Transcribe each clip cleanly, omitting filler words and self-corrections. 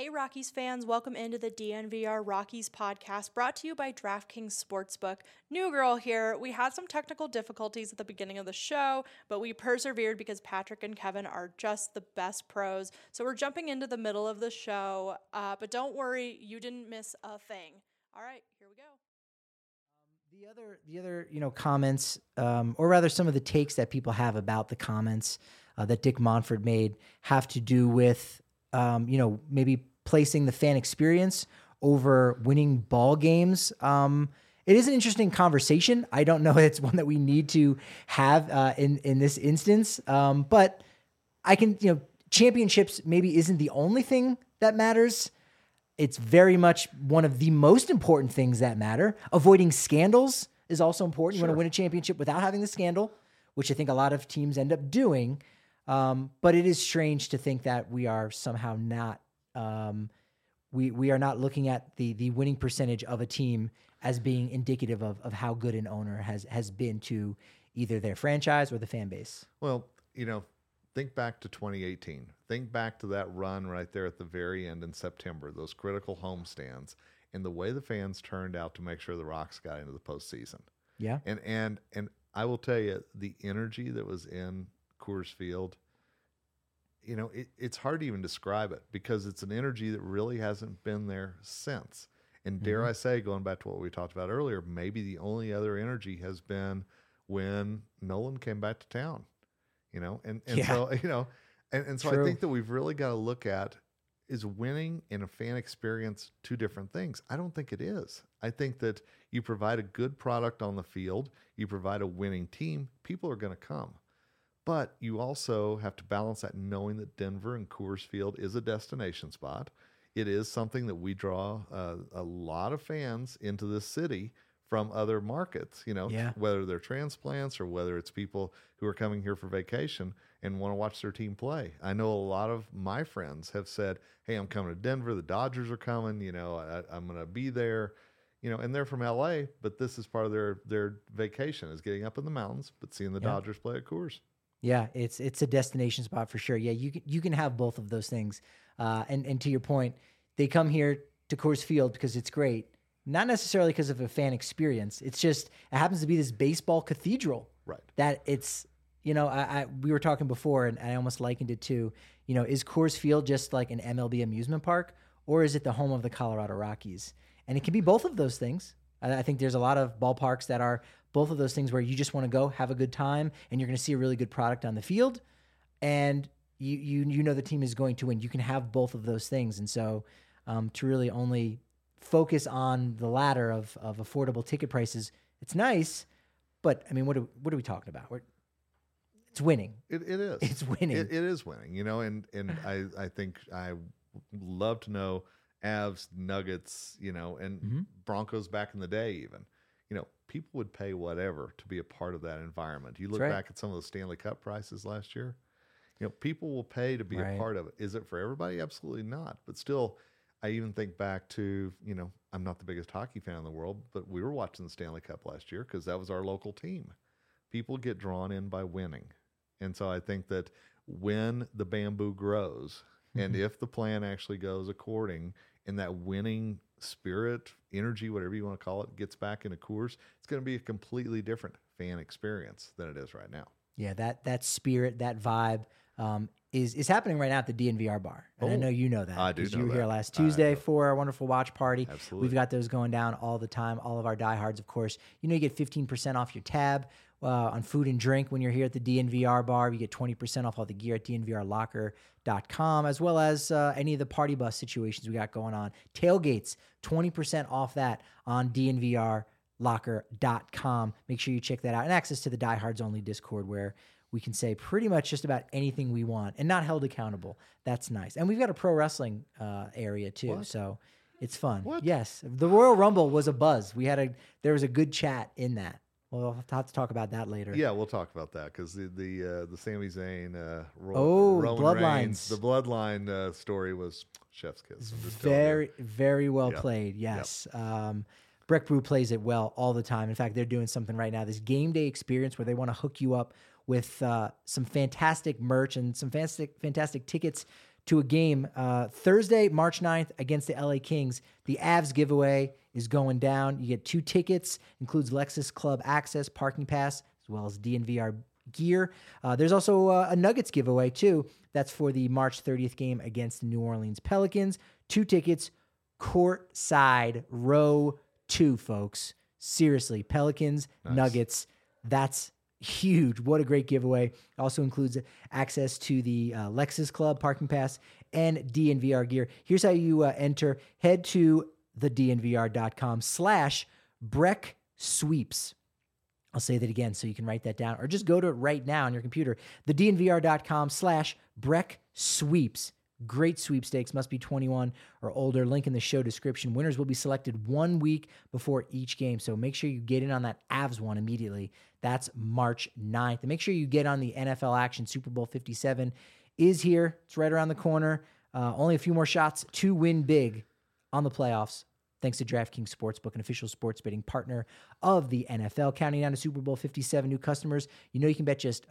Hey Rockies fans, welcome into the DNVR Rockies podcast brought to you by DraftKings Sportsbook. New girl here. We had some technical difficulties at the beginning of the show, but we persevered because Patrick and Kevin are just the best pros. So we're jumping into the middle of the show, but don't worry, you didn't miss a thing. All right, here we go. The other, comments, or rather some of the takes that people have about the comments that Dick Monfort made have to do with, maybe placing the fan experience over winning ball games. It is an interesting conversation. I don't know if it's one that we need to have in this instance, but I can, championships maybe isn't the only thing that matters. It's very much one of the most important things that matter. Avoiding scandals is also important. You want to win a championship without having the scandal, which I think a lot of teams end up doing. But it is strange to think that we are somehow not, we are not looking at the winning percentage of a team as being indicative of how good an owner has been to either their franchise or the fan base. Well, think back to 2018. Think back to that run right there at the very end in September, those critical homestands, and the way the fans turned out to make sure the Rocks got into the postseason. Yeah. And I will tell you, the energy that was in Coors Field, it's hard to even describe it because it's an energy that really hasn't been there since. And dare I say, going back to what we talked about earlier, maybe the only other energy has been when Nolan came back to town. So True. I think that we've really got to look at, is winning and a fan experience two different things? I don't think it is. I think that you provide a good product on the field, you provide a winning team, people are going to come. But you also have to balance that knowing that Denver and Coors Field is a destination spot. It is something that we draw a lot of fans into this city from other markets, whether they're transplants or whether it's people who are coming here for vacation and want to watch their team play. I know a lot of my friends have said, hey, I'm coming to Denver. The Dodgers are coming. I'm going to be there, and they're from LA, but this is part of their vacation is getting up in the mountains, but seeing the Dodgers play at Coors. Yeah, it's a destination spot for sure. Yeah, you can have both of those things. And to your point, they come here to Coors Field because it's great. Not necessarily because of a fan experience. It's just, it happens to be this baseball cathedral. Right. That it's, we were talking before and I almost likened it to, is Coors Field just like an MLB amusement park, or is it the home of the Colorado Rockies? And it can be both of those things. I think there's a lot of ballparks that are both of those things where you just want to go have a good time and you're going to see a really good product on the field. And you know the team is going to win. You can have both of those things. And so to really only focus on the latter of affordable ticket prices, it's nice, but I mean, what are we talking about? It's winning. It is. It's winning. It is winning, and I think I love to know Avs, Nuggets, and Broncos back in the day even. People would pay whatever to be a part of that environment. You look back at some of the Stanley Cup prices last year, people will pay to be a part of it. Is it for everybody? Absolutely not. But still, I even think back to, I'm not the biggest hockey fan in the world, but we were watching the Stanley Cup last year because that was our local team. People get drawn in by winning. And so I think that when the bamboo grows and if the plan actually goes according and that winning spirit, energy, whatever you want to call it, gets back into Coors, it's going to be a completely different fan experience than it is right now. Yeah, that spirit, that vibe is happening right now at the DNVR bar. And I know you know that. I do know you were that. here last Tuesday for our wonderful watch party. Absolutely. We've got those going down all the time. All of our diehards, of course. You get 15% off your tab on food and drink when you're here at the DNVR bar. You get 20% off all the gear at DNVRlocker.com, as well as any of the party bus situations we got going on. Tailgates, 20% off that on DNVRlocker.com. Make sure you check that out. And access to the Diehards Only Discord where we can say pretty much just about anything we want and not held accountable. That's nice. And we've got a pro wrestling area too. So it's fun. What? Yes. The Royal Rumble was a buzz. There was a good chat in that. We'll have to talk about that later. Yeah, we'll talk about that because the Sami Zayn, Bloodlines. Roman Reigns, the Bloodline story was chef's kiss. Very well played. Yes. Yep. Breck Brew plays it well all the time. In fact, they're doing something right now, this game day experience where they want to hook you up with some fantastic merch and some fantastic tickets to a game Thursday, March 9th against the LA Kings. The Avs giveaway is going down. You get 2 tickets, includes Lexus Club access, parking pass, as well as DNVR gear. There's also a Nuggets giveaway too. That's for the March 30th game against the New Orleans Pelicans. 2 tickets, courtside, row 2, folks. Seriously, Pelicans, nice. Nuggets, that's huge. What a great giveaway. Also includes access to the Lexus Club parking pass and DNVR gear. Here's how you enter. Head to thednvr.com/Breck Sweeps. I'll say that again so you can write that down, or just go to it right now on your computer. thednvr.com/Breck Sweeps. Great sweepstakes, must be 21 or older. Link in the show description. Winners will be selected 1 week before each game, so make sure you get in on that Avs one immediately. That's March 9th. And make sure you get on the NFL action. Super Bowl 57 is here. It's right around the corner. Only a few more shots to win big on the playoffs. Thanks to DraftKings Sportsbook, an official sports betting partner of the NFL. Counting down to Super Bowl 57 new customers, you can bet just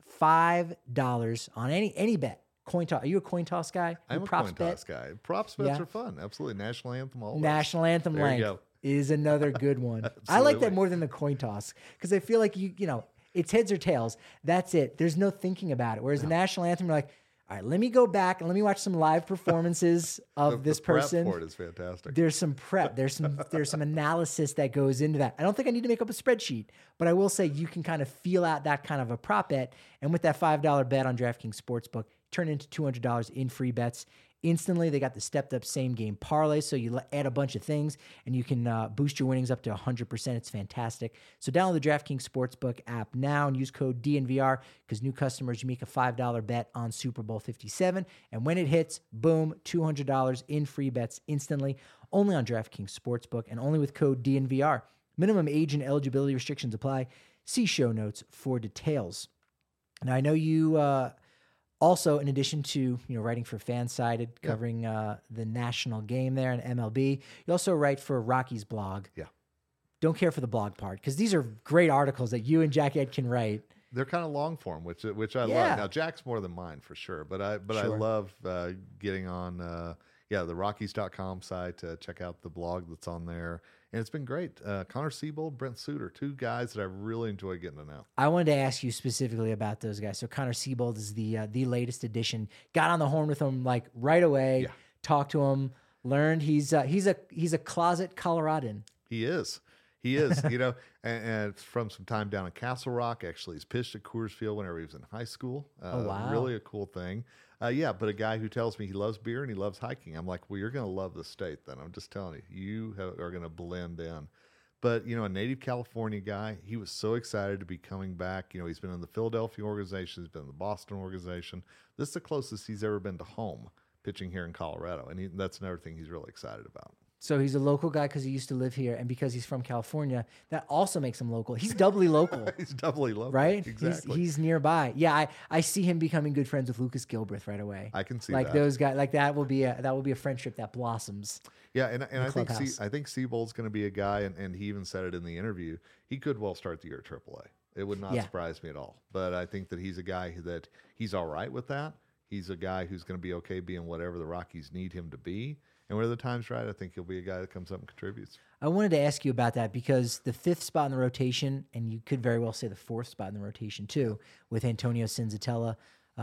$5 on any bet. Coin toss. Are you a coin toss guy? I'm a coin toss guy. Props bets are fun. Absolutely. National anthem always. National anthem length is another good one. I like that more than the coin toss because I feel like it's heads or tails. That's it. There's no thinking about it. Whereas the national anthem, you're like, all right, let me go back and let me watch some live performances of this person. The prep for it is fantastic. There's some prep. There's some analysis that goes into that. I don't think I need to make up a spreadsheet, but I will say you can kind of feel out that kind of a prop bet. And with that $5 bet on DraftKings Sportsbook, turn into $200 in free bets instantly. They got the stepped up same game parlay, so you add a bunch of things and you can boost your winnings up to 100%. It's fantastic. So download the DraftKings Sportsbook app now and use code DNVR because new customers, you make a $5 bet on Super Bowl 57, and when it hits, boom, $200 in free bets instantly, only on DraftKings Sportsbook and only with code DNVR. Minimum age and eligibility restrictions apply. See show notes for details. Now, I know you also, in addition to writing for Fansided, covering the national game there in MLB, you also write for Rocky's blog. Yeah. Don't care for the blog part because these are great articles that you and Jack Ed can write. They're kind of long form, which I love. Now Jack's more than mine for sure, but I love getting on the Rockies.com site to check out the blog that's on there. And it's been great. Connor Siebold, Brent Suter, 2 guys that I really enjoy getting to know. I wanted to ask you specifically about those guys. So Connor Siebold is the latest addition. Got on the horn with him like right away. Yeah. Talked to him. Learned he's a closet Coloradan. He is. And from some time down in Castle Rock. Actually, he's pitched at Coors Field whenever he was in high school. Oh, wow. Really a cool thing. But a guy who tells me he loves beer and he loves hiking. I'm like, well, you're going to love the state then. I'm just telling you, are going to blend in. But, a native California guy, he was so excited to be coming back. He's been in the Philadelphia organization. He's been in the Boston organization. This is the closest he's ever been to home pitching here in Colorado. And that's another thing he's really excited about. So he's a local guy because he used to live here, and because he's from California, that also makes him local. He's doubly local. He's doubly local, right? Exactly. He's nearby. Yeah, I see him becoming good friends with Lucas Gilbreth right away. I can see like that. Those guys. Like that will be a friendship that blossoms. Yeah, and I think Siebold's going to be a guy, and he even said it in the interview. He could well start the year at AAA. It would not surprise me at all. But I think that he's a guy that he's all right with that. He's a guy who's going to be okay being whatever the Rockies need him to be. And when the time's right, I think he'll be a guy that comes up and contributes. I wanted to ask you about that because the 5th spot in the rotation, and you could very well say the 4th spot in the rotation too, with Antonio Cinzatella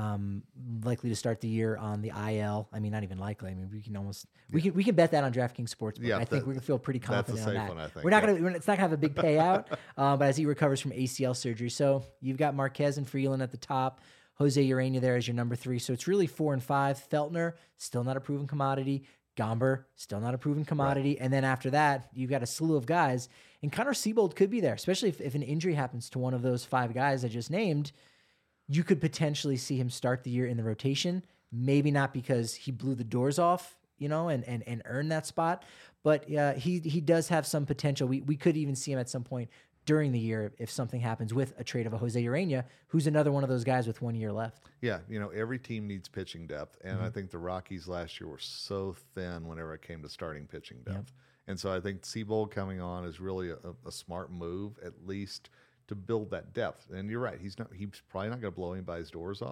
likely to start the year on the IL. I mean, not even likely. I mean, we can bet that on DraftKings Sportsbook. Yeah, I think we can feel pretty confident on that. One, I think. We're not gonna. It's not gonna have a big payout, but as he recovers from ACL surgery, so you've got Marquez and Freeland at the top. Jose Urena there as your number 3. So it's really 4 and 5. Feltner, still not a proven commodity. Gomber, still not a proven commodity. Right. And then after that, you've got a slew of guys. And Connor Siebold could be there, especially if an injury happens to one of those 5 guys I just named. You could potentially see him start the year in the rotation. Maybe not because he blew the doors off, and earned that spot. But he does have some potential. We could even see him at some point during the year if something happens with a trade of a Jose Urena, who's another one of those guys with 1 year left. Yeah, every team needs pitching depth, and I think the Rockies last year were so thin whenever it came to starting pitching depth. Yep. And so I think Siebold coming on is really a smart move, at least to build that depth. And you're right, he's probably not going to blow anybody's doors off.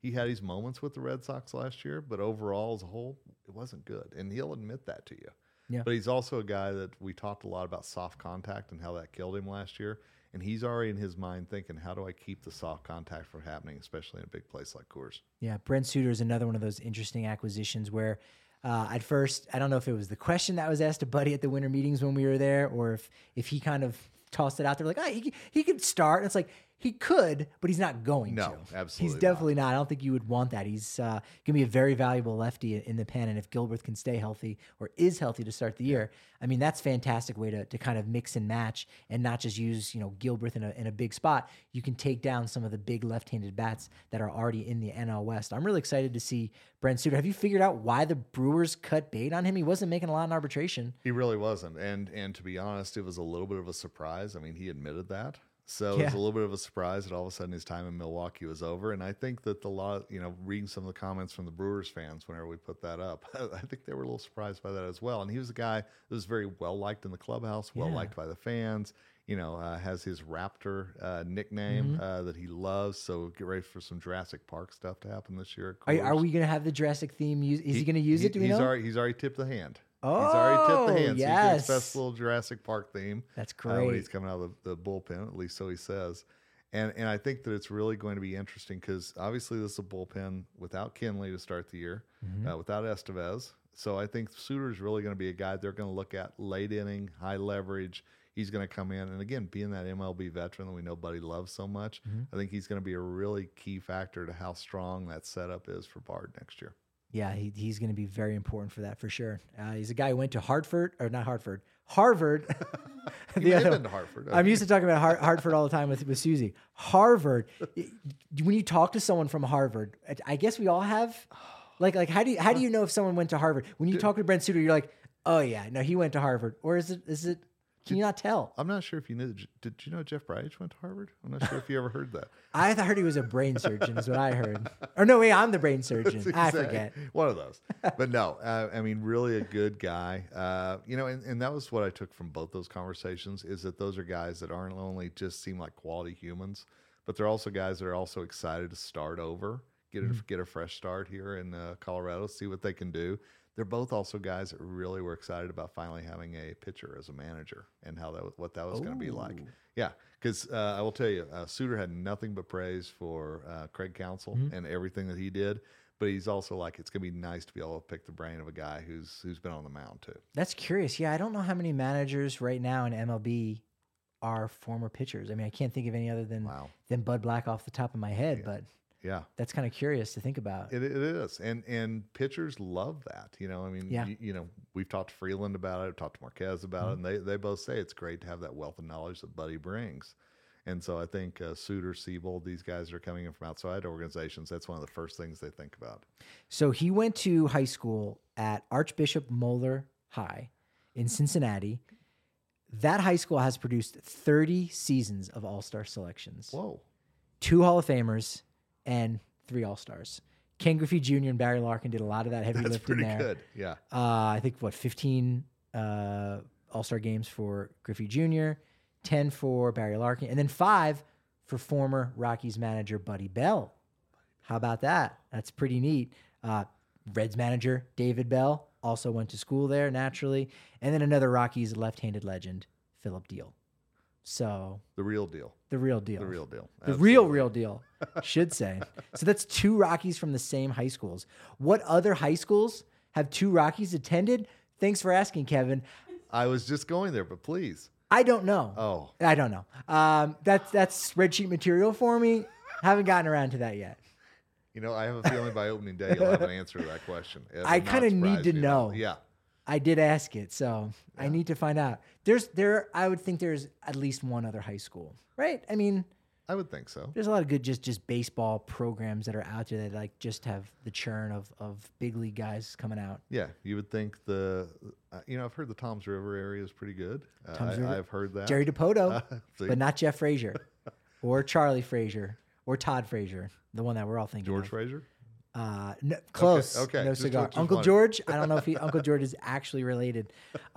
he had his moments with the Red Sox last year, but overall as a whole, it wasn't good. And he'll admit that to you. Yeah. But he's also a guy that we talked a lot about soft contact and how that killed him last year. And he's already in his mind thinking, how do I keep the soft contact from happening, especially in a big place like Coors? Yeah, Brent Suter is another one of those interesting acquisitions where at first, I don't know if it was the question that was asked to Buddy at the winter meetings when we were there, or if he kind of tossed it out there like, oh, he could start. And it's like, he could, but he's not going to. No, absolutely He's definitely not. I don't think you would want that. He's going to be a very valuable lefty in the pen. And if Gilbert can stay healthy or is healthy to start the year, I mean, that's a fantastic way to kind of mix and match and not just use, Gilbert in a big spot. You can take down some of the big left-handed bats that are already in the NL West. I'm really excited to see Brent Suter. Have you figured out why the Brewers cut bait on him? He wasn't making a lot in arbitration. He really wasn't. And to be honest, it was a little bit of a surprise. I mean, he admitted that. So it was a little bit of a surprise that all of a sudden his time in Milwaukee was over. And I think that reading some of the comments from the Brewers fans whenever we put that up, I think they were a little surprised by that as well. And he was a guy that was very well liked in the clubhouse, well liked by the fans. Has his Raptor nickname that he loves. So get ready for some Jurassic Park stuff to happen this year. Are we going to have the Jurassic theme? Is he going to use it? Do we know? He's already tipped the hand. Oh, he's already tipped the hand. So yes. you can expect a little Jurassic Park theme. That's great. When he's coming out of the bullpen, at least so he says. And I think that it's really going to be interesting because obviously this is a bullpen without Kenley to start the year, without Estevez. So I think Suter is really going to be a guy they're going to look at late inning, high leverage. He's going to come in. And again, being that MLB veteran that we know Buddy loves so much, I think he's going to be a really key factor to how strong that setup is for Bard next year. Yeah, he's going to be very important for that for sure. He's a guy who went to Harvard. He may have been to Hartford. I'm used to talking about Hartford all the time with Susie. Harvard. When you talk to someone from Harvard, I guess we all have. Like how do you know if someone went to Harvard? When you talk to Brent Suter, you're like, oh yeah, no, he went to Harvard, or is it? Can you not tell? I'm not sure if you knew. Did you know Jeff Bridich went to Harvard? I'm not sure if you ever heard that. I heard he was a brain surgeon, is what I heard. Or no, wait, I'm the brain surgeon. I forget. One of those. But no, I mean, really a good guy. And that was what I took from both those conversations is that those are guys that aren't only just seem like quality humans, but they're also guys that are also excited to start over, get a fresh start here in Colorado, see what they can do. They're both also guys that really were excited about finally having a pitcher as a manager and what that was going to be like. Yeah, because I will tell you, Suter had nothing but praise for Craig Counsell and everything that he did. But he's also like, it's going to be nice to be able to pick the brain of a guy who's been on the mound too. That's curious. Yeah, I don't know how many managers right now in MLB are former pitchers. I mean, I can't think of any other than Bud Black off the top of my head, but. Yeah, that's kind of curious to think about. It is, and pitchers love that. We've talked to Freeland about it, I've talked to Marquez about it, and they both say it's great to have that wealth of knowledge that Buddy brings. And so I think Suter, Siebold, these guys are coming in from outside organizations. That's one of the first things they think about. So he went to high school at Archbishop Moeller High in Cincinnati. That high school has produced 30 seasons of All-Star selections. Whoa. 2 Hall of Famers. And 3 All-Stars. Ken Griffey Jr. and Barry Larkin did a lot of that heavy lifting there. That's pretty good, yeah. I think, 15 All-Star games for Griffey Jr., 10 for Barry Larkin, and then 5 for former Rockies manager Buddy Bell. How about that? That's pretty neat. Reds manager David Bell also went to school there, naturally. And then another Rockies left-handed legend, Philip Deal. So the real deal. The real deal. The real deal. The real deal, should say. So that's 2 Rockies from the same high schools. What other high schools have 2 Rockies attended? Thanks for asking, Kevin. I was just going there, but please. I don't know. Oh. I don't know. That's spreadsheet material for me. Haven't gotten around to that yet. I have a feeling by opening day you'll have an answer to that question. I kind of need to know. Yeah. I did ask it, so I need to find out. I would think there's at least one other high school, right? I mean, I would think so. There's a lot of good just baseball programs that are out there that just have the churn of big league guys coming out. Yeah, you would think I've heard the Toms River area is pretty good. I've heard that. Jerry Dipoto, but not Jeff Frazier or Charlie Frazier or Todd Frazier, the one that we're all thinking George of. Frazier? No, close. Okay. No cigar. Uncle George. I don't know if Uncle George is actually related.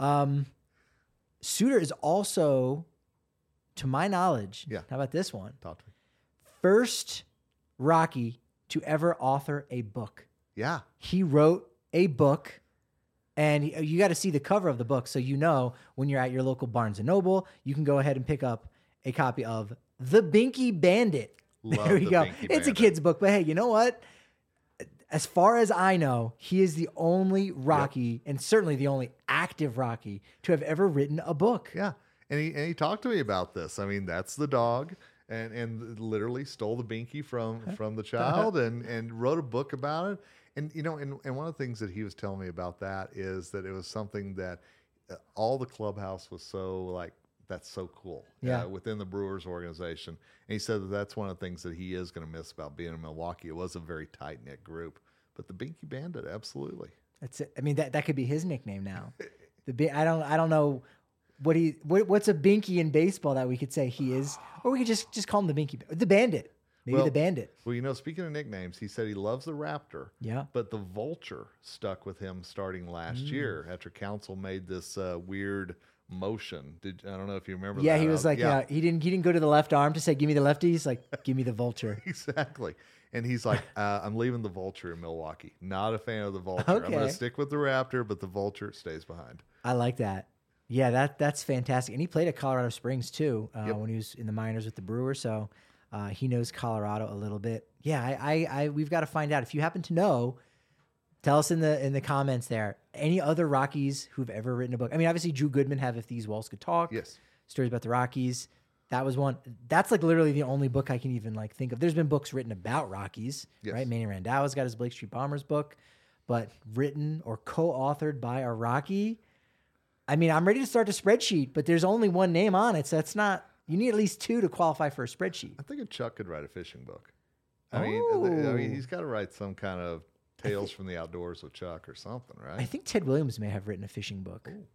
Suter is also, to my knowledge. Yeah. How about this one? Talk to me. First Rocky to ever author a book. Yeah. He wrote a book, and you got to see the cover of the book. So, when you're at your local Barnes & Noble, you can go ahead and pick up a copy of The Binky Bandit. Love there we The go. Binky It's a Bandit. kid's book, but hey, you know what? As far as I know, he is the only Rocky, and certainly the only active Rocky, to have ever written a book. Yeah. And he talked to me about this. I mean, that's the dog, and literally stole the binky from the child and wrote a book about it. And and one of the things that he was telling me about that is that it was something that all the clubhouse was so like, that's so cool. Within the Brewers organization. And he said that that's one of the things that he is going to miss about being in Milwaukee. It was a very tight knit group, but the Binky Bandit, absolutely. That's it. I mean, that could be his nickname now. I don't know what's a Binky in baseball that we could say he is, or we could just call him the Binky, the Bandit. Maybe the Bandit. Well, speaking of nicknames, he said he loves the Raptor. Yeah. But the Vulture stuck with him starting last year after Council made this weird motion. I don't know if you remember that. Yeah, he was like, he didn't go to the left arm to say, give me the lefty. He's like, give me the Vulture. Exactly. And he's like, I'm leaving the Vulture in Milwaukee. Not a fan of the Vulture. I'm going to stick with the Raptor, but the Vulture stays behind. I like that. Yeah, that's fantastic. And he played at Colorado Springs too when he was in the minors with the Brewers. So he knows Colorado a little bit. Yeah, we've got to find out. If you happen to know, tell us in the comments there. Any other Rockies who've ever written a book? I mean, obviously Drew Goodman have If These Walls Could Talk. Yes. Stories about the Rockies. That was one. That's like literally the only book I can even like think of. There's been books written about Rockies, right? Manny Randau's got his Blake Street Bombers book, but written or co-authored by a Rocky. I mean, I'm ready to start a spreadsheet, but there's only one name on it, so that's not. You need at least two to qualify for a spreadsheet. I think Chuck could write a fishing book. I mean, he's got to write some kind of Tales from the Outdoors with Chuck or something, right? I think Ted Williams may have written a fishing book. Ooh.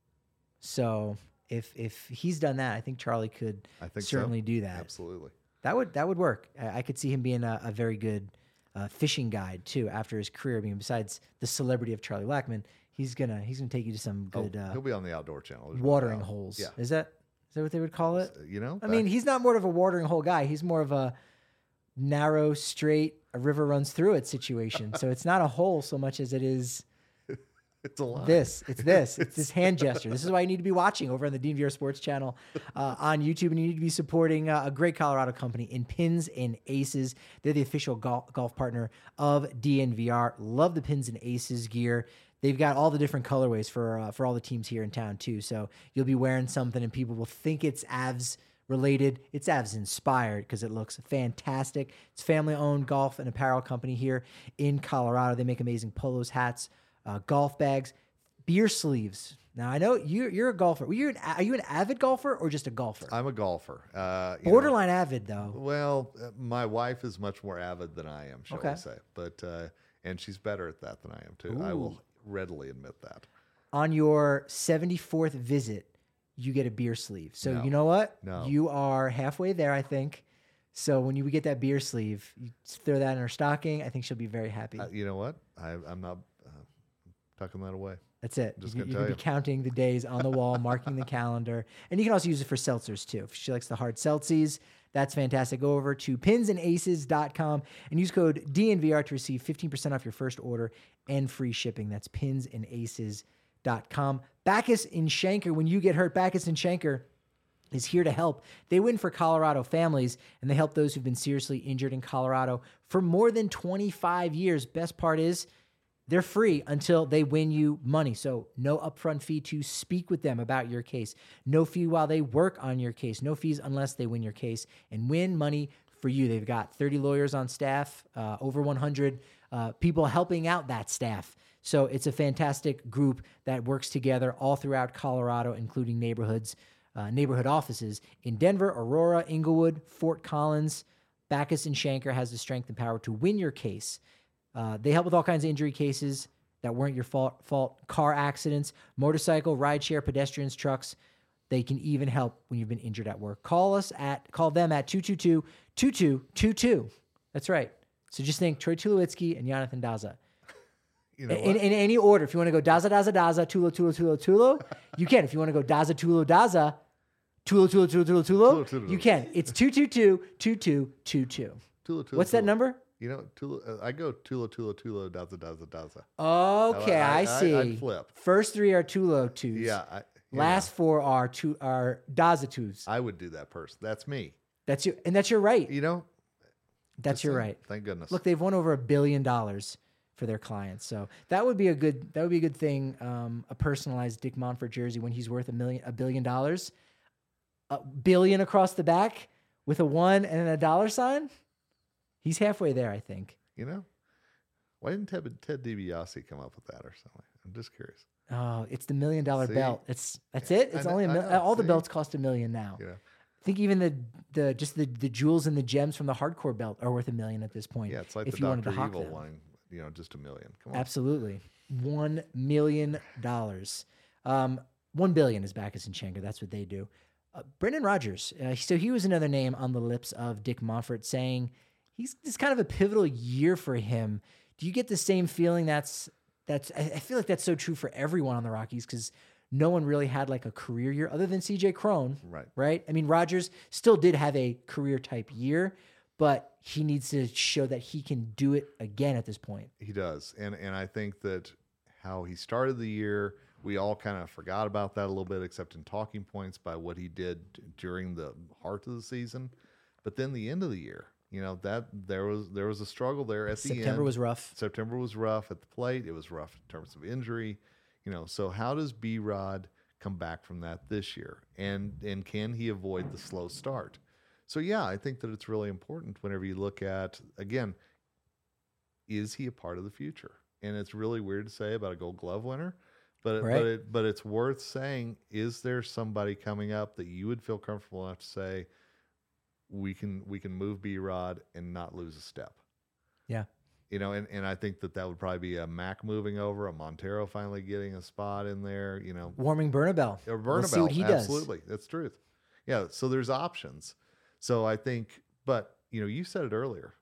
So if he's done that, I think Charlie could certainly do that. Absolutely. That would work. I could see him being a very good fishing guide too after his career. I mean, besides the celebrity of Charlie Lackman, he's gonna take you to some good. He'll be on the Outdoor Channel. Watering holes. Yeah. Is that what they would call it? I mean, he's not more of a watering hole guy. He's more of a narrow, straight, a river runs through it situation. So it's not a hole so much as it is. It's a line. It's this hand gesture. This is why you need to be watching over on the DNVR Sports channel on YouTube, and you need to be supporting a great Colorado company in Pins and Aces. They're the official golf partner of DNVR. Love the Pins and Aces gear. They've got all the different colorways for all the teams here in town too. So you'll be wearing something, and people will think it's Avs related. It's Avs inspired because it looks fantastic. It's family-owned golf and apparel company here in Colorado. They make amazing polos, hats, golf bags, beer sleeves. Now, I know you're a golfer. Are you an avid golfer or just a golfer? I'm a golfer. Borderline avid, though. Well, my wife is much more avid than I am, shall we say. But and she's better at that than I am, too. Ooh. I will readily admit that. On your 74th visit, you get a beer sleeve. So you know what? No. You are halfway there, I think. So when you get that beer sleeve, you throw that in her stocking. I think she'll be very happy. You know what? I'm not tucking that away. That's it. You can be counting the days on the wall, marking the calendar. And you can also use it for seltzers, too. If she likes the hard seltzies, that's fantastic. Go over to pinsandaces.com and use code DNVR to receive 15% off your first order and free shipping. That's pinsandaces.com. Backus and Schenker, when you get hurt, Backus and Schenker is here to help. They win for Colorado families, and they help those who've been seriously injured in Colorado for more than 25 years. Best part is, they're free until they win you money. So no upfront fee to speak with them about your case. No fee while they work on your case. No fees unless they win your case and win money for you. They've got 30 lawyers on staff, over 100 people helping out that staff. So it's a fantastic group that works together all throughout Colorado, including neighborhood offices in Denver, Aurora, Inglewood, Fort Collins. Backus and Schenker has the strength and power to win your case. They help with all kinds of injury cases that weren't your fault, car accidents, motorcycle, rideshare, pedestrians, trucks. They can even help when you've been injured at work. Call them at 222-2222. That's right. So just think Troy Tulowitzki and Jonathan Daza. You know in any order. If you want to go Daza, Daza, Daza, Tulo, you can. If you want to go Daza, Tulo, Daza, Tulo, you can. It's 222-2222. What's that number? You know, I go Tulo, Daza, Daza, Daza. Okay, I see. I'd flip. First three are Tulo twos. Yeah. Last four are Daza twos. I would do that person. That's me. That's you, and that's your right. You know, that's your right. Thank goodness. Look, they've won over $1 billion for their clients, so that would be a good thing. A personalized Dick Monfort jersey when he's worth $1 billion, $1 billion across the back with a 1 and a dollar sign. He's halfway there, I think. You know, why didn't Ted DiBiase come up with that or something? I'm just curious. Oh, it's the $1 million belt. That's it. It's only all the belts cost $1 million now. Yeah. I think even the jewels and the gems from the hardcore belt are worth $1 million at this point. Yeah, it's like if the you wanted Dr. to hawk Evil them. one, you know, just $1 million. Come on. Absolutely. $1 million. $1 billion is Bacchus and Schenker. That's what they do. Brendan Rodgers. So he was another name on the lips of Dick Monfort saying it's kind of a pivotal year for him. Do you get the same feeling I feel like that's so true for everyone on the Rockies because no one really had like a career year other than CJ Cron. Right. I mean, Rodgers still did have a career type year, but he needs to show that he can do it again at this point. He does. And I think that how he started the year, we all kind of forgot about that a little bit, except in talking points by what he did during the heart of the season. But then the end of the year, you know, that there was a struggle there at the end. September was rough. September was rough at the plate. It was rough in terms of injury. You know, so how does B-Rod come back from that this year? And can he avoid the slow start? So, yeah, I think that it's really important whenever you look at, again, is he a part of the future? And it's really weird to say about a Gold Glove winner, but it's worth saying, is there somebody coming up that you would feel comfortable enough to say, we can move B-Rod and not lose a step? Yeah. You know, and I think that would probably be a Mac moving over, a Montero finally getting a spot in there, you know. Warming Bernabel. Or Bernabel, we'll see what he does. Absolutely. That's truth. Yeah, so there's options. So I think, but, you know, you said it earlier,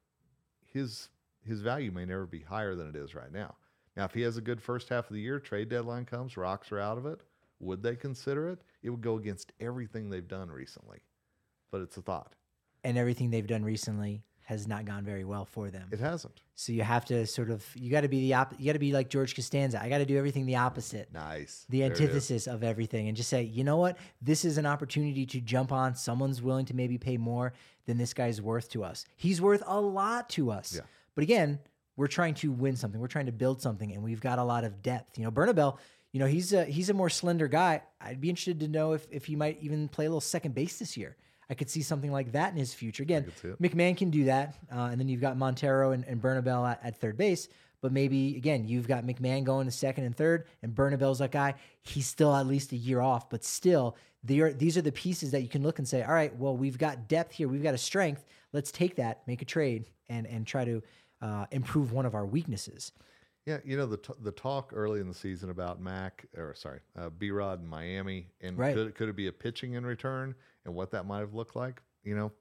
his value may never be higher than it is right now. Now, if he has a good first half of the year, trade deadline comes, Rocks are out of it, would they consider it? It would go against everything they've done recently, but it's a thought. And everything they've done recently has not gone very well for them. It hasn't. So you have to you got to be you got to be like George Costanza. I got to do everything the opposite. Nice. The antithesis of everything, and just say, you know what? This is an opportunity to jump on. Someone's willing to maybe pay more than this guy's worth to us. He's worth a lot to us. Yeah. But again, we're trying to win something. We're trying to build something, and we've got a lot of depth. You know, Bernabel, you know, he's a more slender guy. I'd be interested to know if he might even play a little second base this year. I could see something like that in his future. Again, McMahon can do that. And then you've got Montero and Bernabel at third base. But maybe, again, you've got McMahon going to second and third, and Bernabel's that guy. He's still at least a year off. But still, these are the pieces that you can look and say, all right, well, we've got depth here. We've got a strength. Let's take that, make a trade, and try to improve one of our weaknesses. Yeah, you know, the talk early in the season about B-Rod in Miami, and could it be a pitching in return and what that might have looked like? You know,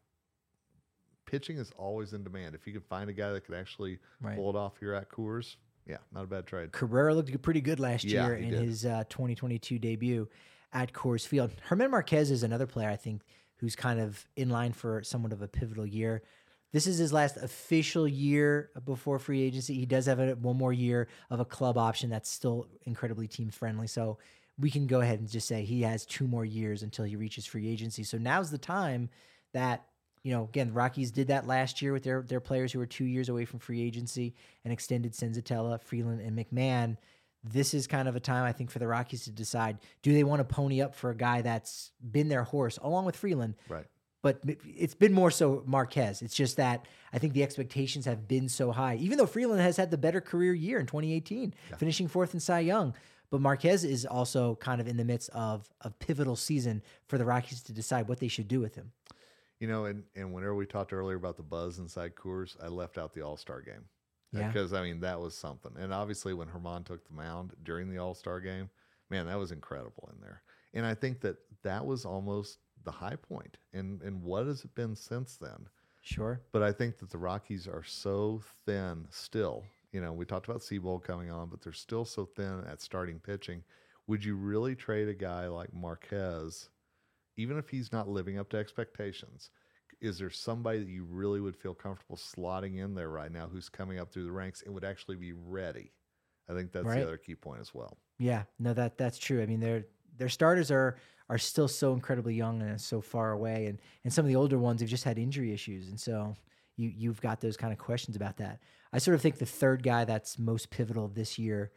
pitching is always in demand. If you could find a guy that could actually pull it off here at Coors, yeah, not a bad trade. Cabrera looked pretty good last year in his 2022 debut at Coors Field. German Marquez is another player, I think, who's kind of in line for somewhat of a pivotal year. This is his last official year before free agency. He does have one more year of a club option that's still incredibly team friendly. So we can go ahead and just say he has 2 more years until he reaches free agency. So now's the time that, you know, again, the Rockies did that last year with their players who were 2 years away from free agency and extended Senzatella, Freeland, and McMahon. This is kind of a time, I think, for the Rockies to decide, do they want to pony up for a guy that's been their horse along with Freeland? Right. But it's been more so Marquez. It's just that I think the expectations have been so high, even though Freeland has had the better career year in 2018, finishing 4th in Cy Young. But Marquez is also kind of in the midst of a pivotal season for the Rockies to decide what they should do with him. You know, and whenever we talked earlier about the buzz inside Coors, I left out the All-Star game. Yeah. Because, I mean, that was something. And obviously when Germán took the mound during the All-Star game, man, that was incredible in there. And I think that was almost the high point. And what has it been since then? Sure. But I think that the Rockies are so thin still. You know, we talked about Seabold coming on, but they're still so thin at starting pitching. Would you really trade a guy like Marquez, even if he's not living up to expectations? is there somebody that you really would feel comfortable slotting in there right now who's coming up through the ranks and would actually be ready? I think that's Right. the other key point as well. Yeah, no, that's true. I mean, their starters are still so incredibly young and so far away, and some of the older ones have just had injury issues, and so you've got those kind of questions about that. I sort of think the third guy that's most pivotal this year,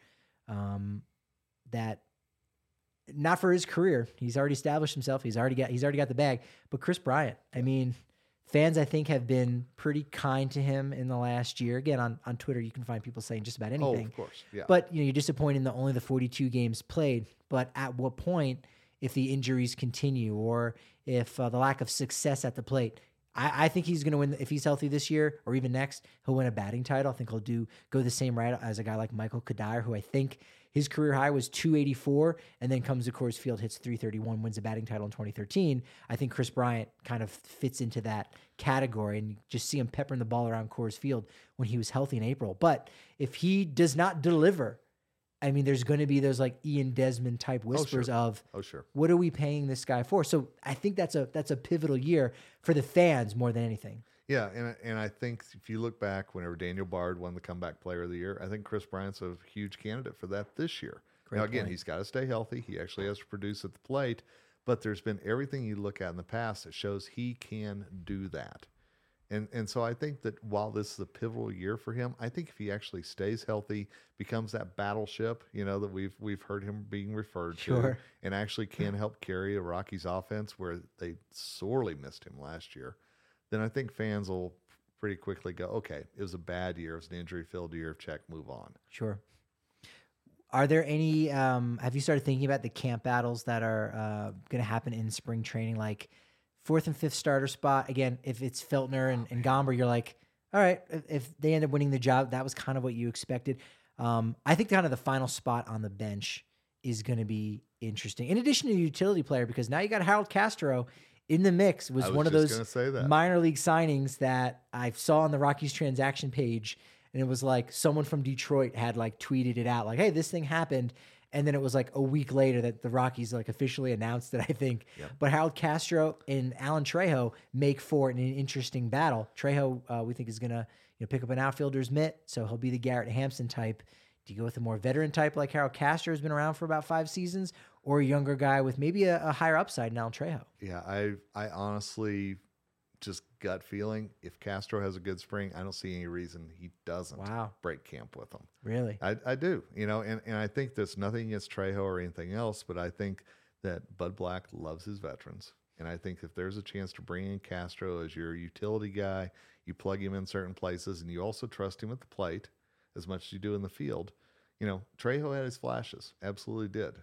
that not for his career, he's already established himself, he's already got the bag, but Chris Bryant. I mean, fans I think have been pretty kind to him in the last year. Again, on Twitter, you can find people saying just about anything. Oh, of course, yeah. But you're disappointed in only the 42 games played. But at what point, if the injuries continue or if the lack of success at the plate, I think he's going to win. If he's healthy this year or even next, he'll win a batting title. I think he'll go the same route as a guy like Michael Kadire, who I think his career high was 284, and then comes to Coors Field, hits 331, wins a batting title in 2013. I think Chris Bryant kind of fits into that category, and you just see him peppering the ball around Coors Field when he was healthy in April. But if he does not deliver, I mean, there's going to be those like Ian Desmond type whispers of, what are we paying this guy for? So I think that's a pivotal year for the fans more than anything. Yeah, and I think if you look back, whenever Daniel Bard won the Comeback Player of the Year, I think Chris Bryant's a huge candidate for that this year. Now, again, he's got to stay healthy. He actually has to produce at the plate, but there's been everything you look at in the past that shows he can do that. And so I think that while this is a pivotal year for him, I think if he actually stays healthy, becomes that battleship, that we've heard him being referred to, and actually can help carry a Rockies offense where they sorely missed him last year, then I think fans will pretty quickly go, okay, it was a bad year. It was an injury-filled year. Check, move on. Sure. Are there any, have you started thinking about the camp battles that are going to happen in spring training? Like 4th and 5th starter spot. Again, if it's Feltner and Gomber, you're like, all right, if they end up winning the job, that was kind of what you expected. I think kind of the final spot on the bench is going to be interesting. In addition to the utility player, because now you got Harold Castro in the mix. Was one of those minor league signings that I saw on the Rockies transaction page, and it was like someone from Detroit had like tweeted it out, like, "Hey, this thing happened," and then it was like a week later that the Rockies like officially announced it, I think. Yep. But Harold Castro and Alan Trejo make for an interesting battle. Trejo, we think, is gonna pick up an outfielder's mitt, so he'll be the Garrett Hampson type. Do you go with a more veteran type like Harold Castro, has been around for about 5 seasons, or a younger guy with maybe a higher upside in Alan Trejo? Yeah, I honestly just gut feeling, if Castro has a good spring, I don't see any reason he doesn't break camp with them. Really? I do, and I think there's nothing against Trejo or anything else, but I think that Bud Black loves his veterans. And I think if there's a chance to bring in Castro as your utility guy, you plug him in certain places, and you also trust him at the plate as much as you do in the field. Trejo had his flashes, absolutely did.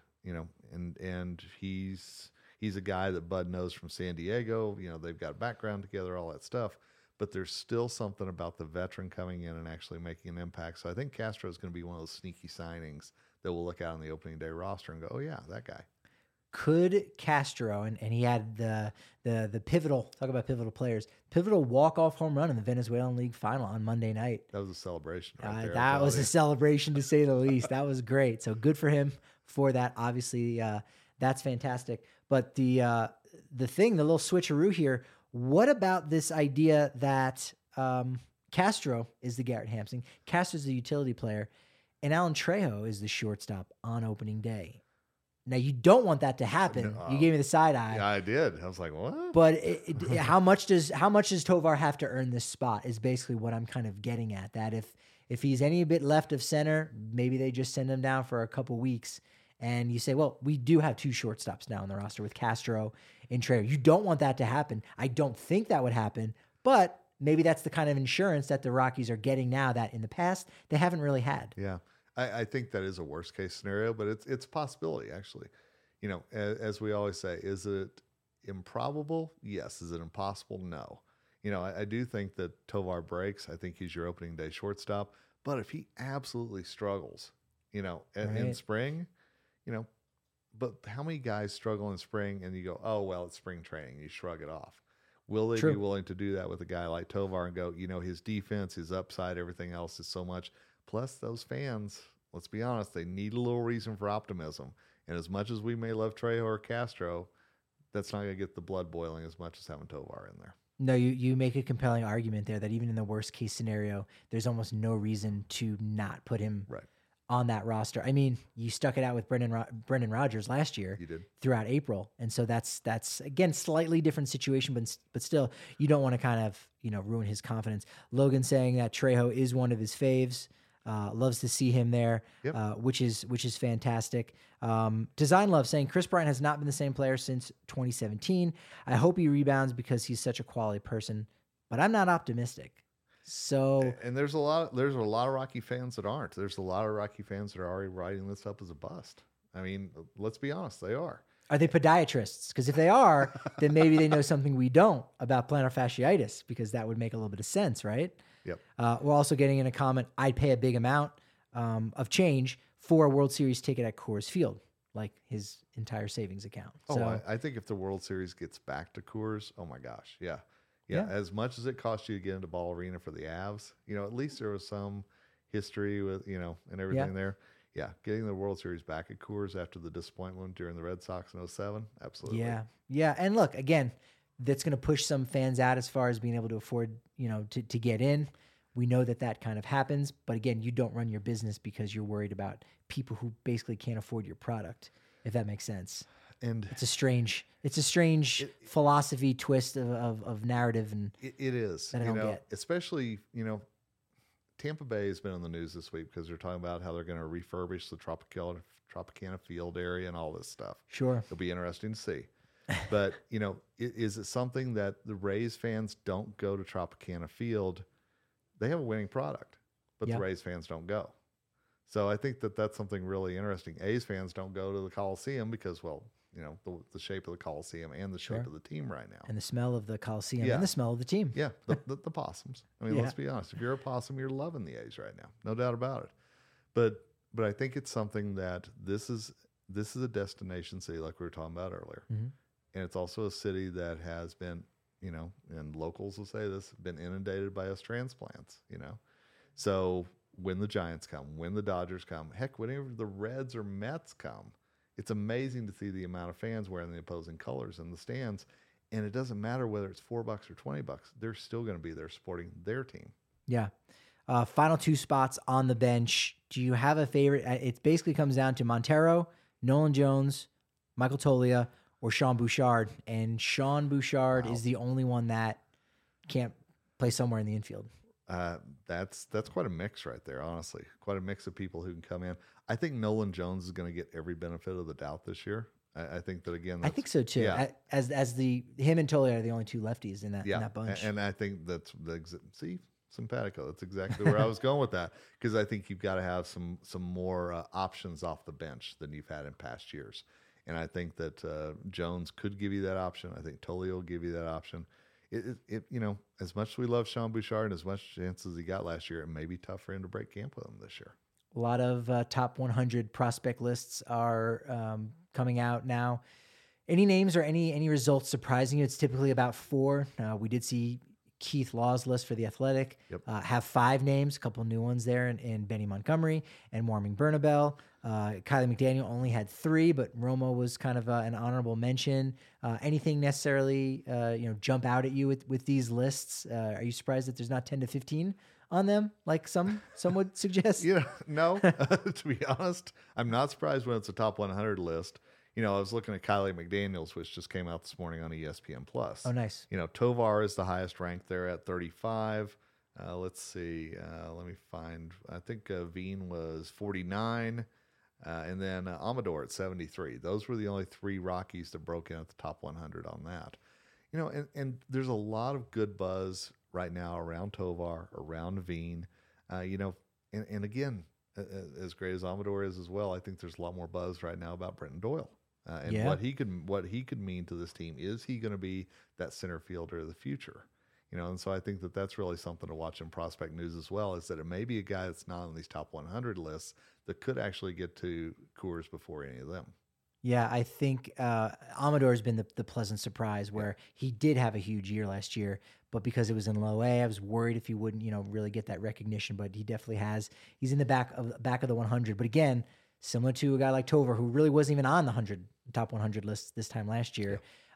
And he's a guy that Bud knows from San Diego. They've got a background together, all that stuff. But there's still something about the veteran coming in and actually making an impact. So I think Castro is going to be one of those sneaky signings that we'll look at on the opening day roster and go, oh yeah, that guy. Could Castro, and he had the pivotal, talk about pivotal players, pivotal walk-off home run in the Venezuelan League Final on Monday night. That was a celebration right there. That was a celebration, to say the least. That was great. So good for him for that. Obviously, that's fantastic. But the little switcheroo here, what about this idea that Castro is the Garrett Hampson, Castro's the utility player, and Alan Trejo is the shortstop on opening day? Now, you don't want that to happen. You gave me the side eye. Yeah, I did. I was like, what? But how much does Tovar have to earn this spot is basically what I'm kind of getting at. That if he's any bit left of center, maybe they just send him down for a couple weeks. And you say, well, we do have 2 shortstops now on the roster with Castro and Trejo. You don't want that to happen. I don't think that would happen. But maybe that's the kind of insurance that the Rockies are getting now that in the past they haven't really had. Yeah. I think that is a worst case scenario, but it's a possibility, actually. As we always say, is it improbable? Yes. Is it impossible? No. I do think that Tovar breaks. I think he's your opening day shortstop. But if he absolutely struggles, in spring, but how many guys struggle in spring and you go, oh, well, it's spring training. You shrug it off. Will they be willing to do that with a guy like Tovar and go, his defense, his upside, everything else is so much. Plus, those fans, let's be honest, they need a little reason for optimism. And as much as we may love Trejo or Castro, that's not going to get the blood boiling as much as having Tovar in there. No, you make a compelling argument there that even in the worst case scenario, there's almost no reason to not put him Right. on that roster. I mean, you stuck it out with Brendan Rodgers last year You did. throughout April. And so that's again, slightly different situation, but still you don't want to kind of, ruin his confidence. Logan saying that Trejo is one of his faves. Loves to see him there, Yep. which is fantastic. Design Love saying Chris Bryant has not been the same player since 2017. I hope he rebounds because he's such a quality person, but I'm not optimistic. So, And there's a lot of Rocky fans that aren't. There's a lot of Rocky fans that are already writing this up as a bust. I mean, let's be honest, they are. are they podiatrists? Because if they are, then maybe they know something we don't about plantar fasciitis, because that would make a little bit of sense, right? Yep. We're also getting in a comment, I'd pay a big amount of change for a World Series ticket at Coors Field, like his entire savings account. So, I think if the World Series gets back to Coors, oh my gosh, yeah. Yeah. As much as it cost you to get into Ball Arena for the Avs, at least there was some history with, and everything there. Yeah, getting the World Series back at Coors after the disappointment during the Red Sox in 2007, absolutely. Yeah. And look, again, that's going to push some fans out as far as being able to afford, to get in. We know that kind of happens, but again, you don't run your business because you're worried about people who basically can't afford your product, if that makes sense. And it's a strange philosophy twist of narrative, and it is, that I don't get. Especially, Tampa Bay has been on the news this week because they're talking about how they're going to refurbish the Tropicana Field area and all this stuff. Sure. It'll be interesting to see. But, is it something that the Rays fans don't go to Tropicana Field? They have a winning product, but the Rays fans don't go. So I think that's something really interesting. A's fans don't go to the Coliseum because, well, the shape of the Coliseum and the shape of the team right now. And the smell of the Coliseum and the smell of the team. Yeah, the possums. I mean, let's be honest. If you're a possum, you're loving the A's right now. No doubt about it. But I think it's something that this is a destination city like we were talking about earlier. Mm-hmm. And it's also a city that has been, and locals will say this, been inundated by us transplants, So when the Giants come, when the Dodgers come, heck, whenever the Reds or Mets come, it's amazing to see the amount of fans wearing the opposing colors in the stands. And it doesn't matter whether it's $4 or $20, they're still going to be there supporting their team. Yeah. Final two spots on the bench. Do you have a favorite? It basically comes down to Montero, Nolan Jones, Michael Toglia, or Sean Bouchard. And Sean Bouchard is the only one that can't play somewhere in the infield. That's quite a mix right there, honestly. Quite a mix of people who can come in. I think Nolan Jones is going to get every benefit of the doubt this year. I think that again. I think so too. Yeah. As him and Toglia are the only two lefties in that bunch. And I think that's simpatico. That's exactly where I was going with that, because I think you've got to have some more options off the bench than you've had in past years. And I think that Jones could give you that option. I think Toglia will give you that option. It as much as we love Sean Bouchard and as much chances he got last year, it may be tough for him to break camp with him this year. A lot of top 100 prospect lists are coming out now. Any names or any results surprising you? It's typically about 4. We did see Keith Law's list for The Athletic have 5 names, a couple new ones there, in Benny Montgomery and Warming Bernabel. Kylie McDaniel only had 3, but Romo was kind of an honorable mention. Anything necessarily jump out at you with these lists? Are you surprised that there's not 10 to 15 on them, like some would suggest? No. To be honest, I'm not surprised when it's a top 100 list. I was looking at Kylie McDaniel's, which just came out this morning on ESPN Plus. Oh, nice. Tovar is the highest ranked there at 35. Let's see. Let me find. I think Veen was 49. And then Amador at 73. Those were the only 3 Rockies that broke in at the top 100 on that. And there's a lot of good buzz right now around Tovar, around Veen. And again, as great as Amador is as well, I think there's a lot more buzz right now about Brenton Doyle. And what he could mean to this team. Is he going to be that center fielder of the future? And so I think that's really something to watch in prospect news as well, is that it may be a guy that's not on these top 100 lists that could actually get to Coors before any of them. Yeah, I think Amador has been the pleasant surprise, where he did have a huge year last year, but because it was in low A, I was worried if he wouldn't, really get that recognition, but he definitely has. He's in the back of the 100. But again, similar to a guy like Tovar, who really wasn't even on the top 100 list this time last year.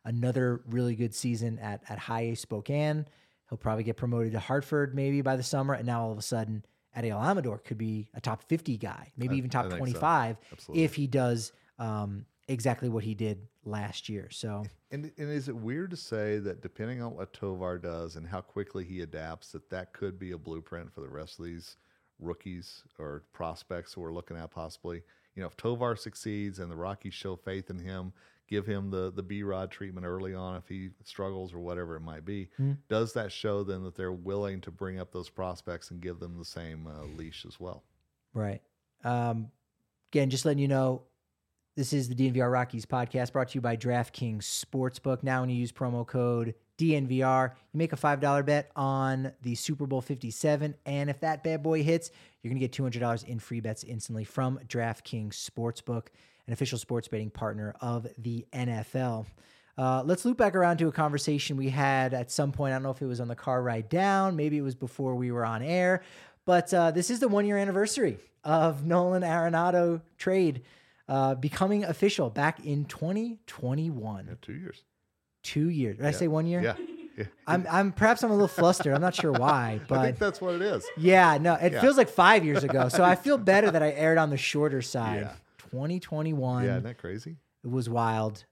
another really good season at High A Spokane. He'll probably get promoted to Hartford maybe by the summer. And now all of a sudden at El Amador could be a top 50 guy, maybe even top 25 if he does exactly what he did last year. So, and is it weird to say that depending on what Tovar does and how quickly he adapts, that could be a blueprint for the rest of these rookies or prospects who we're looking at possibly? If Tovar succeeds and the Rockies show faith in him, give him the B-Rod treatment early on if he struggles or whatever it might be, does that show then that they're willing to bring up those prospects and give them the same leash as well? Right. Again, just letting you know, this is the DNVR Rockies podcast brought to you by DraftKings Sportsbook. Now when you use promo code DNVR, you make a $5 bet on the Super Bowl 57, and if that bad boy hits, you're going to get $200 in free bets instantly from DraftKings Sportsbook, an official sports betting partner of the NFL. Let's loop back around to a conversation we had at some point. I don't know if it was on the car ride down, maybe it was before we were on air, but this is the 1-year anniversary of Nolan Arenado trade becoming official back in 2021. Yeah, 2 years. 2 years. Did I say 1 year? Yeah. I'm perhaps I'm a little flustered. I'm not sure why, but I think that's what it is. Yeah, no, it feels like 5 years ago. So I feel better that I aired on the shorter side. Yeah. 2021. Yeah, isn't that crazy? It was wild.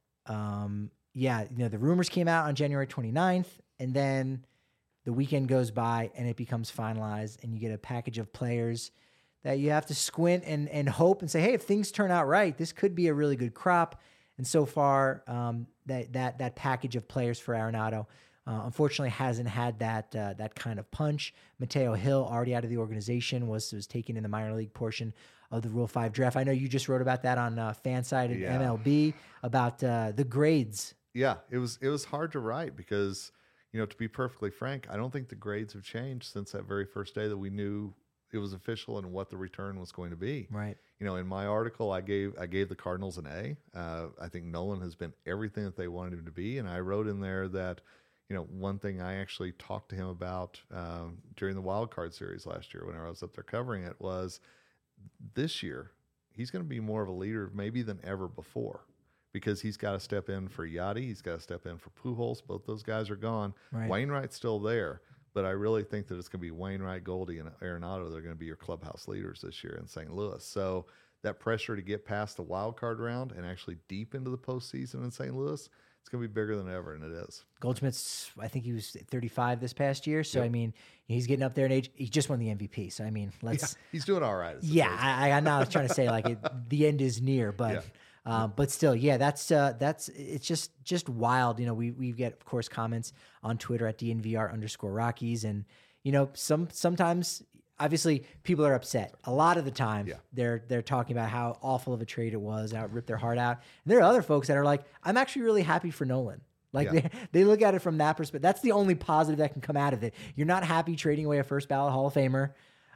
The rumors came out on January 29th, and then the weekend goes by and it becomes finalized, and you get a package of players that you have to squint and hope and say, hey, if things turn out right, this could be a really good crop. And so far, that package of players for Arenado, unfortunately, hasn't had that kind of punch. Mateo Hill, already out of the organization, was taken in the minor league portion of the Rule 5 draft. I know you just wrote about that on Fanside and MLB about the grades. Yeah, it was hard to write because, to be perfectly frank, I don't think the grades have changed since that very first day that we knew it was official and what the return was going to be. Right. In my article, I gave the Cardinals an A. I think Nolan has been everything that they wanted him to be, and I wrote in there that, one thing I actually talked to him about during the Wild Card series last year when I was up there covering it was this year he's going to be more of a leader maybe than ever before because he's got to step in for Yachty, he's got to step in for Pujols. Both those guys are gone. Right. Wainwright's still there. But I really think that it's going to be Wainwright, Goldie, and Arenado. They're going to be your clubhouse leaders this year in St. Louis. So that pressure to get past the wild card round and actually deep into the postseason in St. Louis, it's going to be bigger than ever, and it is. Goldschmidt's, I think he was 35 this past year. So, yep. I mean, he's getting up there in age. He just won the MVP. So, I mean, he's doing all right. I know I was trying to say, the end is near, but... Yeah. But still, that's it's just wild. We get, of course, comments on Twitter at DNVR_Rockies. And, sometimes obviously people are upset. A lot of the time they're talking about how awful of a trade it was, how it ripped their heart out. And there are other folks that are like, I'm actually really happy for Nolan. They look at it from that perspective. That's the only positive that can come out of it. You're not happy trading away a first ballot Hall of Famer.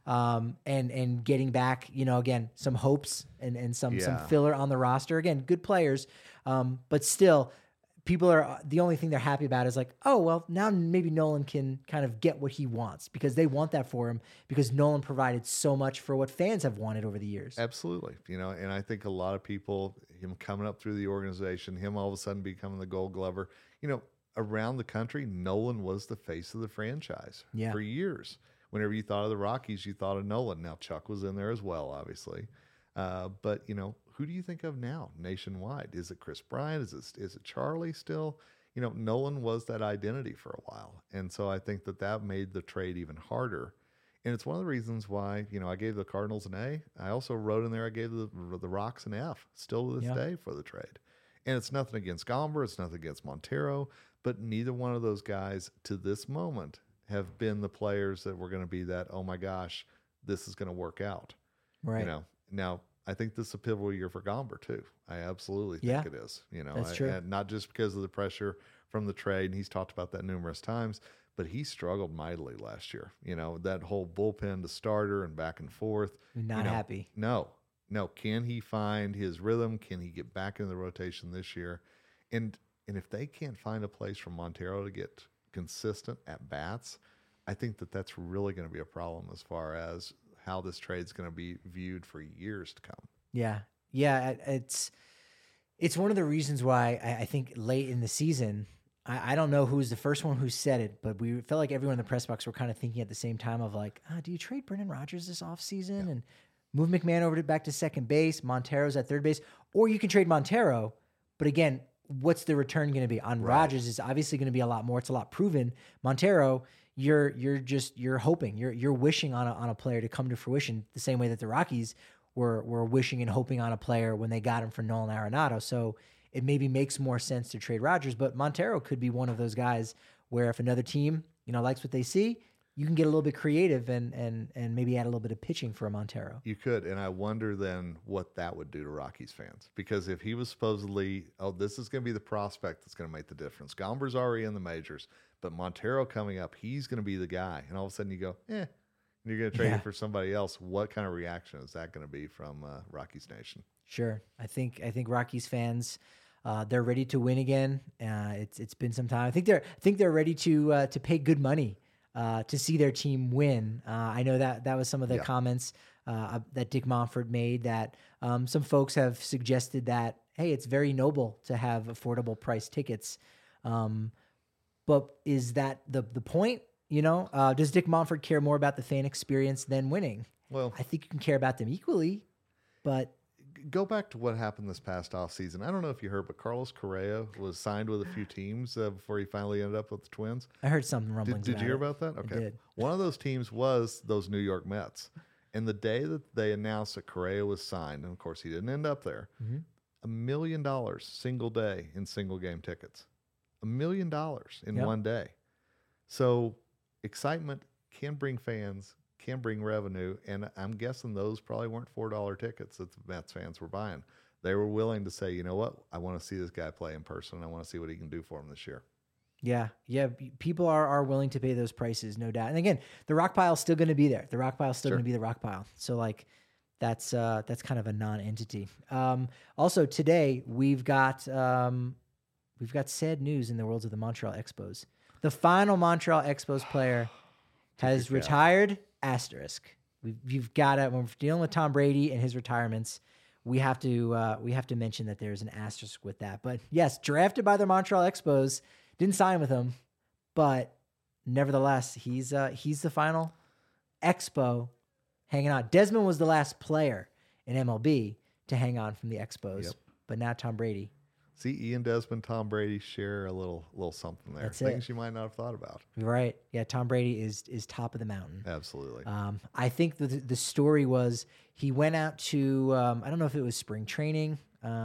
And getting back, again, some hopes and some filler on the roster. Again, good players, but still, people are the only thing they're happy about is oh well, now maybe Nolan can kind of get what he wants because they want that for him because Nolan provided so much for what fans have wanted over the years. Absolutely, and I think a lot of people, him coming up through the organization, him all of a sudden becoming the Gold Glover, around the country, Nolan was the face of the franchise for years. Whenever you thought of the Rockies, you thought of Nolan. Now, Chuck was in there as well, obviously. But, who do you think of now nationwide? Is it Chris Bryant? Is it Charlie still? Nolan was that identity for a while. And so I think that made the trade even harder. And it's one of the reasons why, I gave the Cardinals an A. I also wrote in there I gave the Rocks an F, still to this day for the trade. And it's nothing against Gomber. It's nothing against Montero. But neither one of those guys to this moment have been the players that were going to be that, oh my gosh, this is going to work out. Right. Now I think this is a pivotal year for Gomber too. I absolutely think it is, That's true. And not just because of the pressure from the trade. And he's talked about that numerous times, but he struggled mightily last year. That whole bullpen to starter and back and forth. Not happy. No. Can he find his rhythm? Can he get back into the rotation this year? And if they can't find a place for Montero to get consistent at bats, I think that's really going to be a problem as far as how this trade's going to be viewed for years to come. Yeah. It's It's one of the reasons why I think late in the season, I don't know who was the first one who said it, but we felt like everyone in the press box were kind of thinking at the same time of like, do you trade Brendan Rodgers this offseason and move McMahon over back to second base, Montero's at third base, or you can trade Montero. But again, what's the return going to be on Rodgers? Is obviously going to be a lot more. It's a lot proven. Montero, you're hoping, you're wishing on a player to come to fruition the same way that the Rockies were wishing and hoping on a player when they got him for Nolan Arenado. So it maybe makes more sense to trade Rodgers, but Montero could be one of those guys where if another team, likes what they see, you can get a little bit creative and maybe add a little bit of pitching for a Montero. You could, and I wonder then what that would do to Rockies fans. Because if he was supposedly, this is going to be the prospect that's going to make the difference. Gomber's already in the majors, but Montero coming up, he's going to be the guy. And all of a sudden you go, you're going to trade him for somebody else. What kind of reaction is that going to be from Rockies Nation? Sure. I think Rockies fans, they're ready to win again. It's been some time. I think they're ready to pay good money to see their team win. I know that was some of the comments that Dick Monfort made, that some folks have suggested that, hey, it's very noble to have affordable price tickets. But is that the point? Does Dick Monfort care more about the fan experience than winning? Well, I think you can care about them equally, but go back to what happened this past offseason. I don't know if you heard, but Carlos Correa was signed with a few teams before he finally ended up with the Twins. I heard some rumblings. Did you hear about that? Okay. I did. One of those teams was those New York Mets. And the day that they announced that Correa was signed, and of course he didn't end up there, $1 million single day in single game tickets. $1 million in one day. So excitement can bring fans, can bring revenue, and I'm guessing those probably weren't $4 tickets that the Mets fans were buying. They were willing to say, you know what, I want to see this guy play in person. I want to see what he can do for him this year. Yeah. People are willing to pay those prices, no doubt. And again, the rock pile is still going to be there. The rock pile is still going to be the rock pile. So that's kind of a non-entity. Also today we've got sad news in the worlds of the Montreal Expos. The final Montreal Expos player has retired. Asterisk. We've got to, when we're dealing with Tom Brady and his retirements, we have to mention that there's an asterisk with that. But yes, drafted by the Montreal Expos, didn't sign with them, but nevertheless, he's the final Expo hanging on. Desmond was the last player in MLB to hang on from the Expos, but now Tom Brady. See, Ian Desmond, Tom Brady share a little something there. That's Things you might not have thought about. You're right. Yeah, Tom Brady is top of the mountain. Absolutely. I think the story was he went out to, I don't know if it was spring training,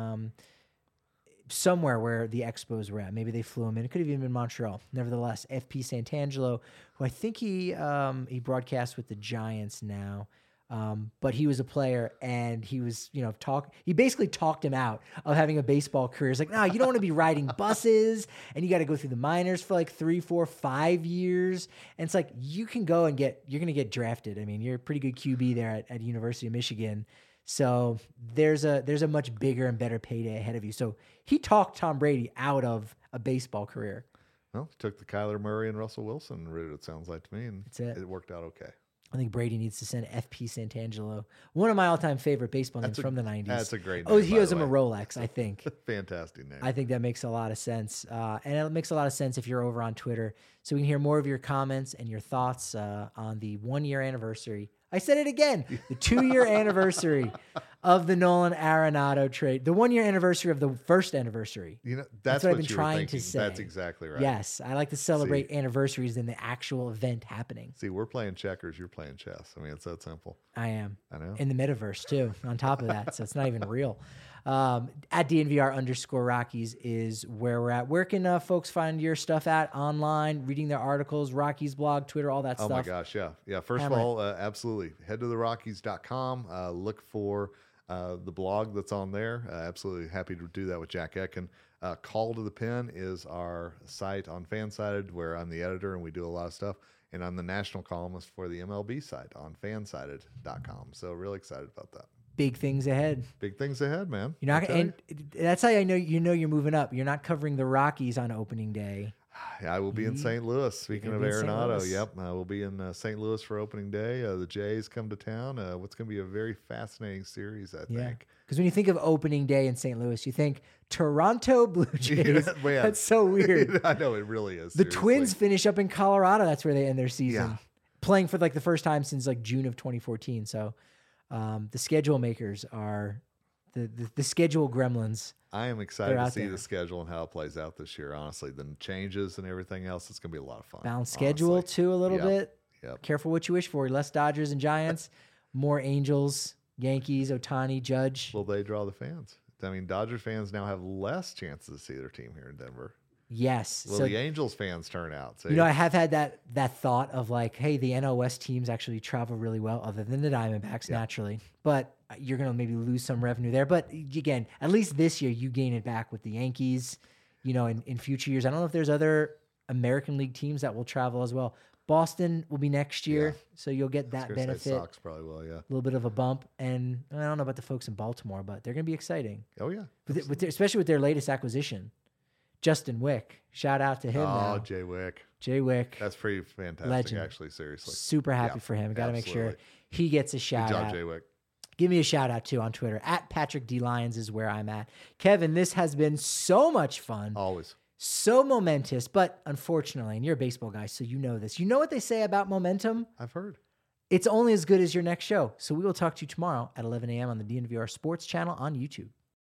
somewhere where the Expos were at. Maybe they flew him in. It could have even been Montreal. Nevertheless, FP Santangelo, who I think he broadcasts with the Giants now, but he was a player, and he was, he basically talked him out of having a baseball career. It's like, no, you don't want to be riding buses, and you got to go through the minors for like 3, 4, 5 years. And it's like, you can go and you're going to get drafted. I mean, you're a pretty good QB there at University of Michigan. So there's a much bigger and better payday ahead of you. So he talked Tom Brady out of a baseball career. Well, he took the Kyler Murray and Russell Wilson route, it sounds like to me, and that's it. It worked out okay. I think Brady needs to send FP Santangelo, one of my all-time favorite baseball names from the 90s. That's a great name. Oh, he owes him a Rolex, I think. Fantastic name. I think that makes a lot of sense. And it makes a lot of sense if you're over on Twitter. So we can hear more of your comments and your thoughts on the 1-year anniversary. I said it again, the 2-year anniversary of the Nolan Arenado trade, the 1-year anniversary of the first anniversary. That's what what I've been trying to say. That's exactly right. Yes, I like to celebrate anniversaries than the actual event happening. See, we're playing checkers, you're playing chess. I mean, it's that simple. I am. I know. In the metaverse too, on top of that, so it's not even real. At DNVR_Rockies is where we're at. Where can folks find your stuff at online, reading their articles, Rockies blog, Twitter, all that stuff? Oh my gosh, yeah. First of all, absolutely. Head to therockies.com. Look for the blog that's on there. Absolutely happy to do that with Jack Etkin. Call to the Pen is our site on Fansided, where I'm the editor and we do a lot of stuff. And I'm the national columnist for the MLB site on fansided.com. So really excited about that. Big things ahead. Big things ahead, man. You're not, and that's how I know you're moving up. You're not covering the Rockies on opening day. I will be in St. Louis. Speaking of gonna be in St. Arenado, Louis. yep, I will be in St. Louis for opening day. The Jays come to town. What's going to be a very fascinating series, I think. Because when you think of opening day in St. Louis, you think Toronto Blue Jays. Yeah, man. That's so weird. I know, it really is. The seriously. Twins finish up in Colorado. That's where they end their season. Yeah. Playing for like the first time since like June of 2014. So the schedule makers are the schedule gremlins. I am excited They're to out see there. the schedule and how it plays out this year. Honestly, the changes and everything else, it's going to be a lot of fun. Balanced schedule honestly. too a little Yep. bit. Yep. Careful what you wish for. Less Dodgers and Giants, more Angels, Yankees, Ohtani, Judge. Will they draw the fans? I mean, Dodgers fans now have less chances to see their team here in Denver. Yes. Will So the Angels fans turn out? See? you know, I have had that thought of like, hey, the NL West teams actually travel really well, other than the Diamondbacks naturally. But you're gonna maybe lose some revenue there. But again, at least this year you gain it back with the Yankees. You know, in future years, I don't know if there's other American League teams that will travel as well. Boston will be next year, so you'll get that I was gonna say benefit. Sox probably will, yeah. A little bit of a bump, and I don't know about the folks in Baltimore, but they're gonna be exciting, Oh, yeah. especially with their latest acquisition, Justin Wick. Shout out to him. Oh, now. Jay Wick. Jay Wick. That's pretty fantastic, Legend. actually, seriously. Super happy Yeah, for him. Got to make sure absolutely. he gets a Good shout job, out. Jay Wick. Give me a shout out too on Twitter at Patrick D Lyons is where I'm at. Kevin, this has been so much fun, Always. so momentous, but unfortunately, and you're a baseball guy, so you know this. You know what they say about momentum? I've heard. It's only as good as your next show. So we will talk to you tomorrow at 11 a.m. on the DNVR Sports channel on YouTube.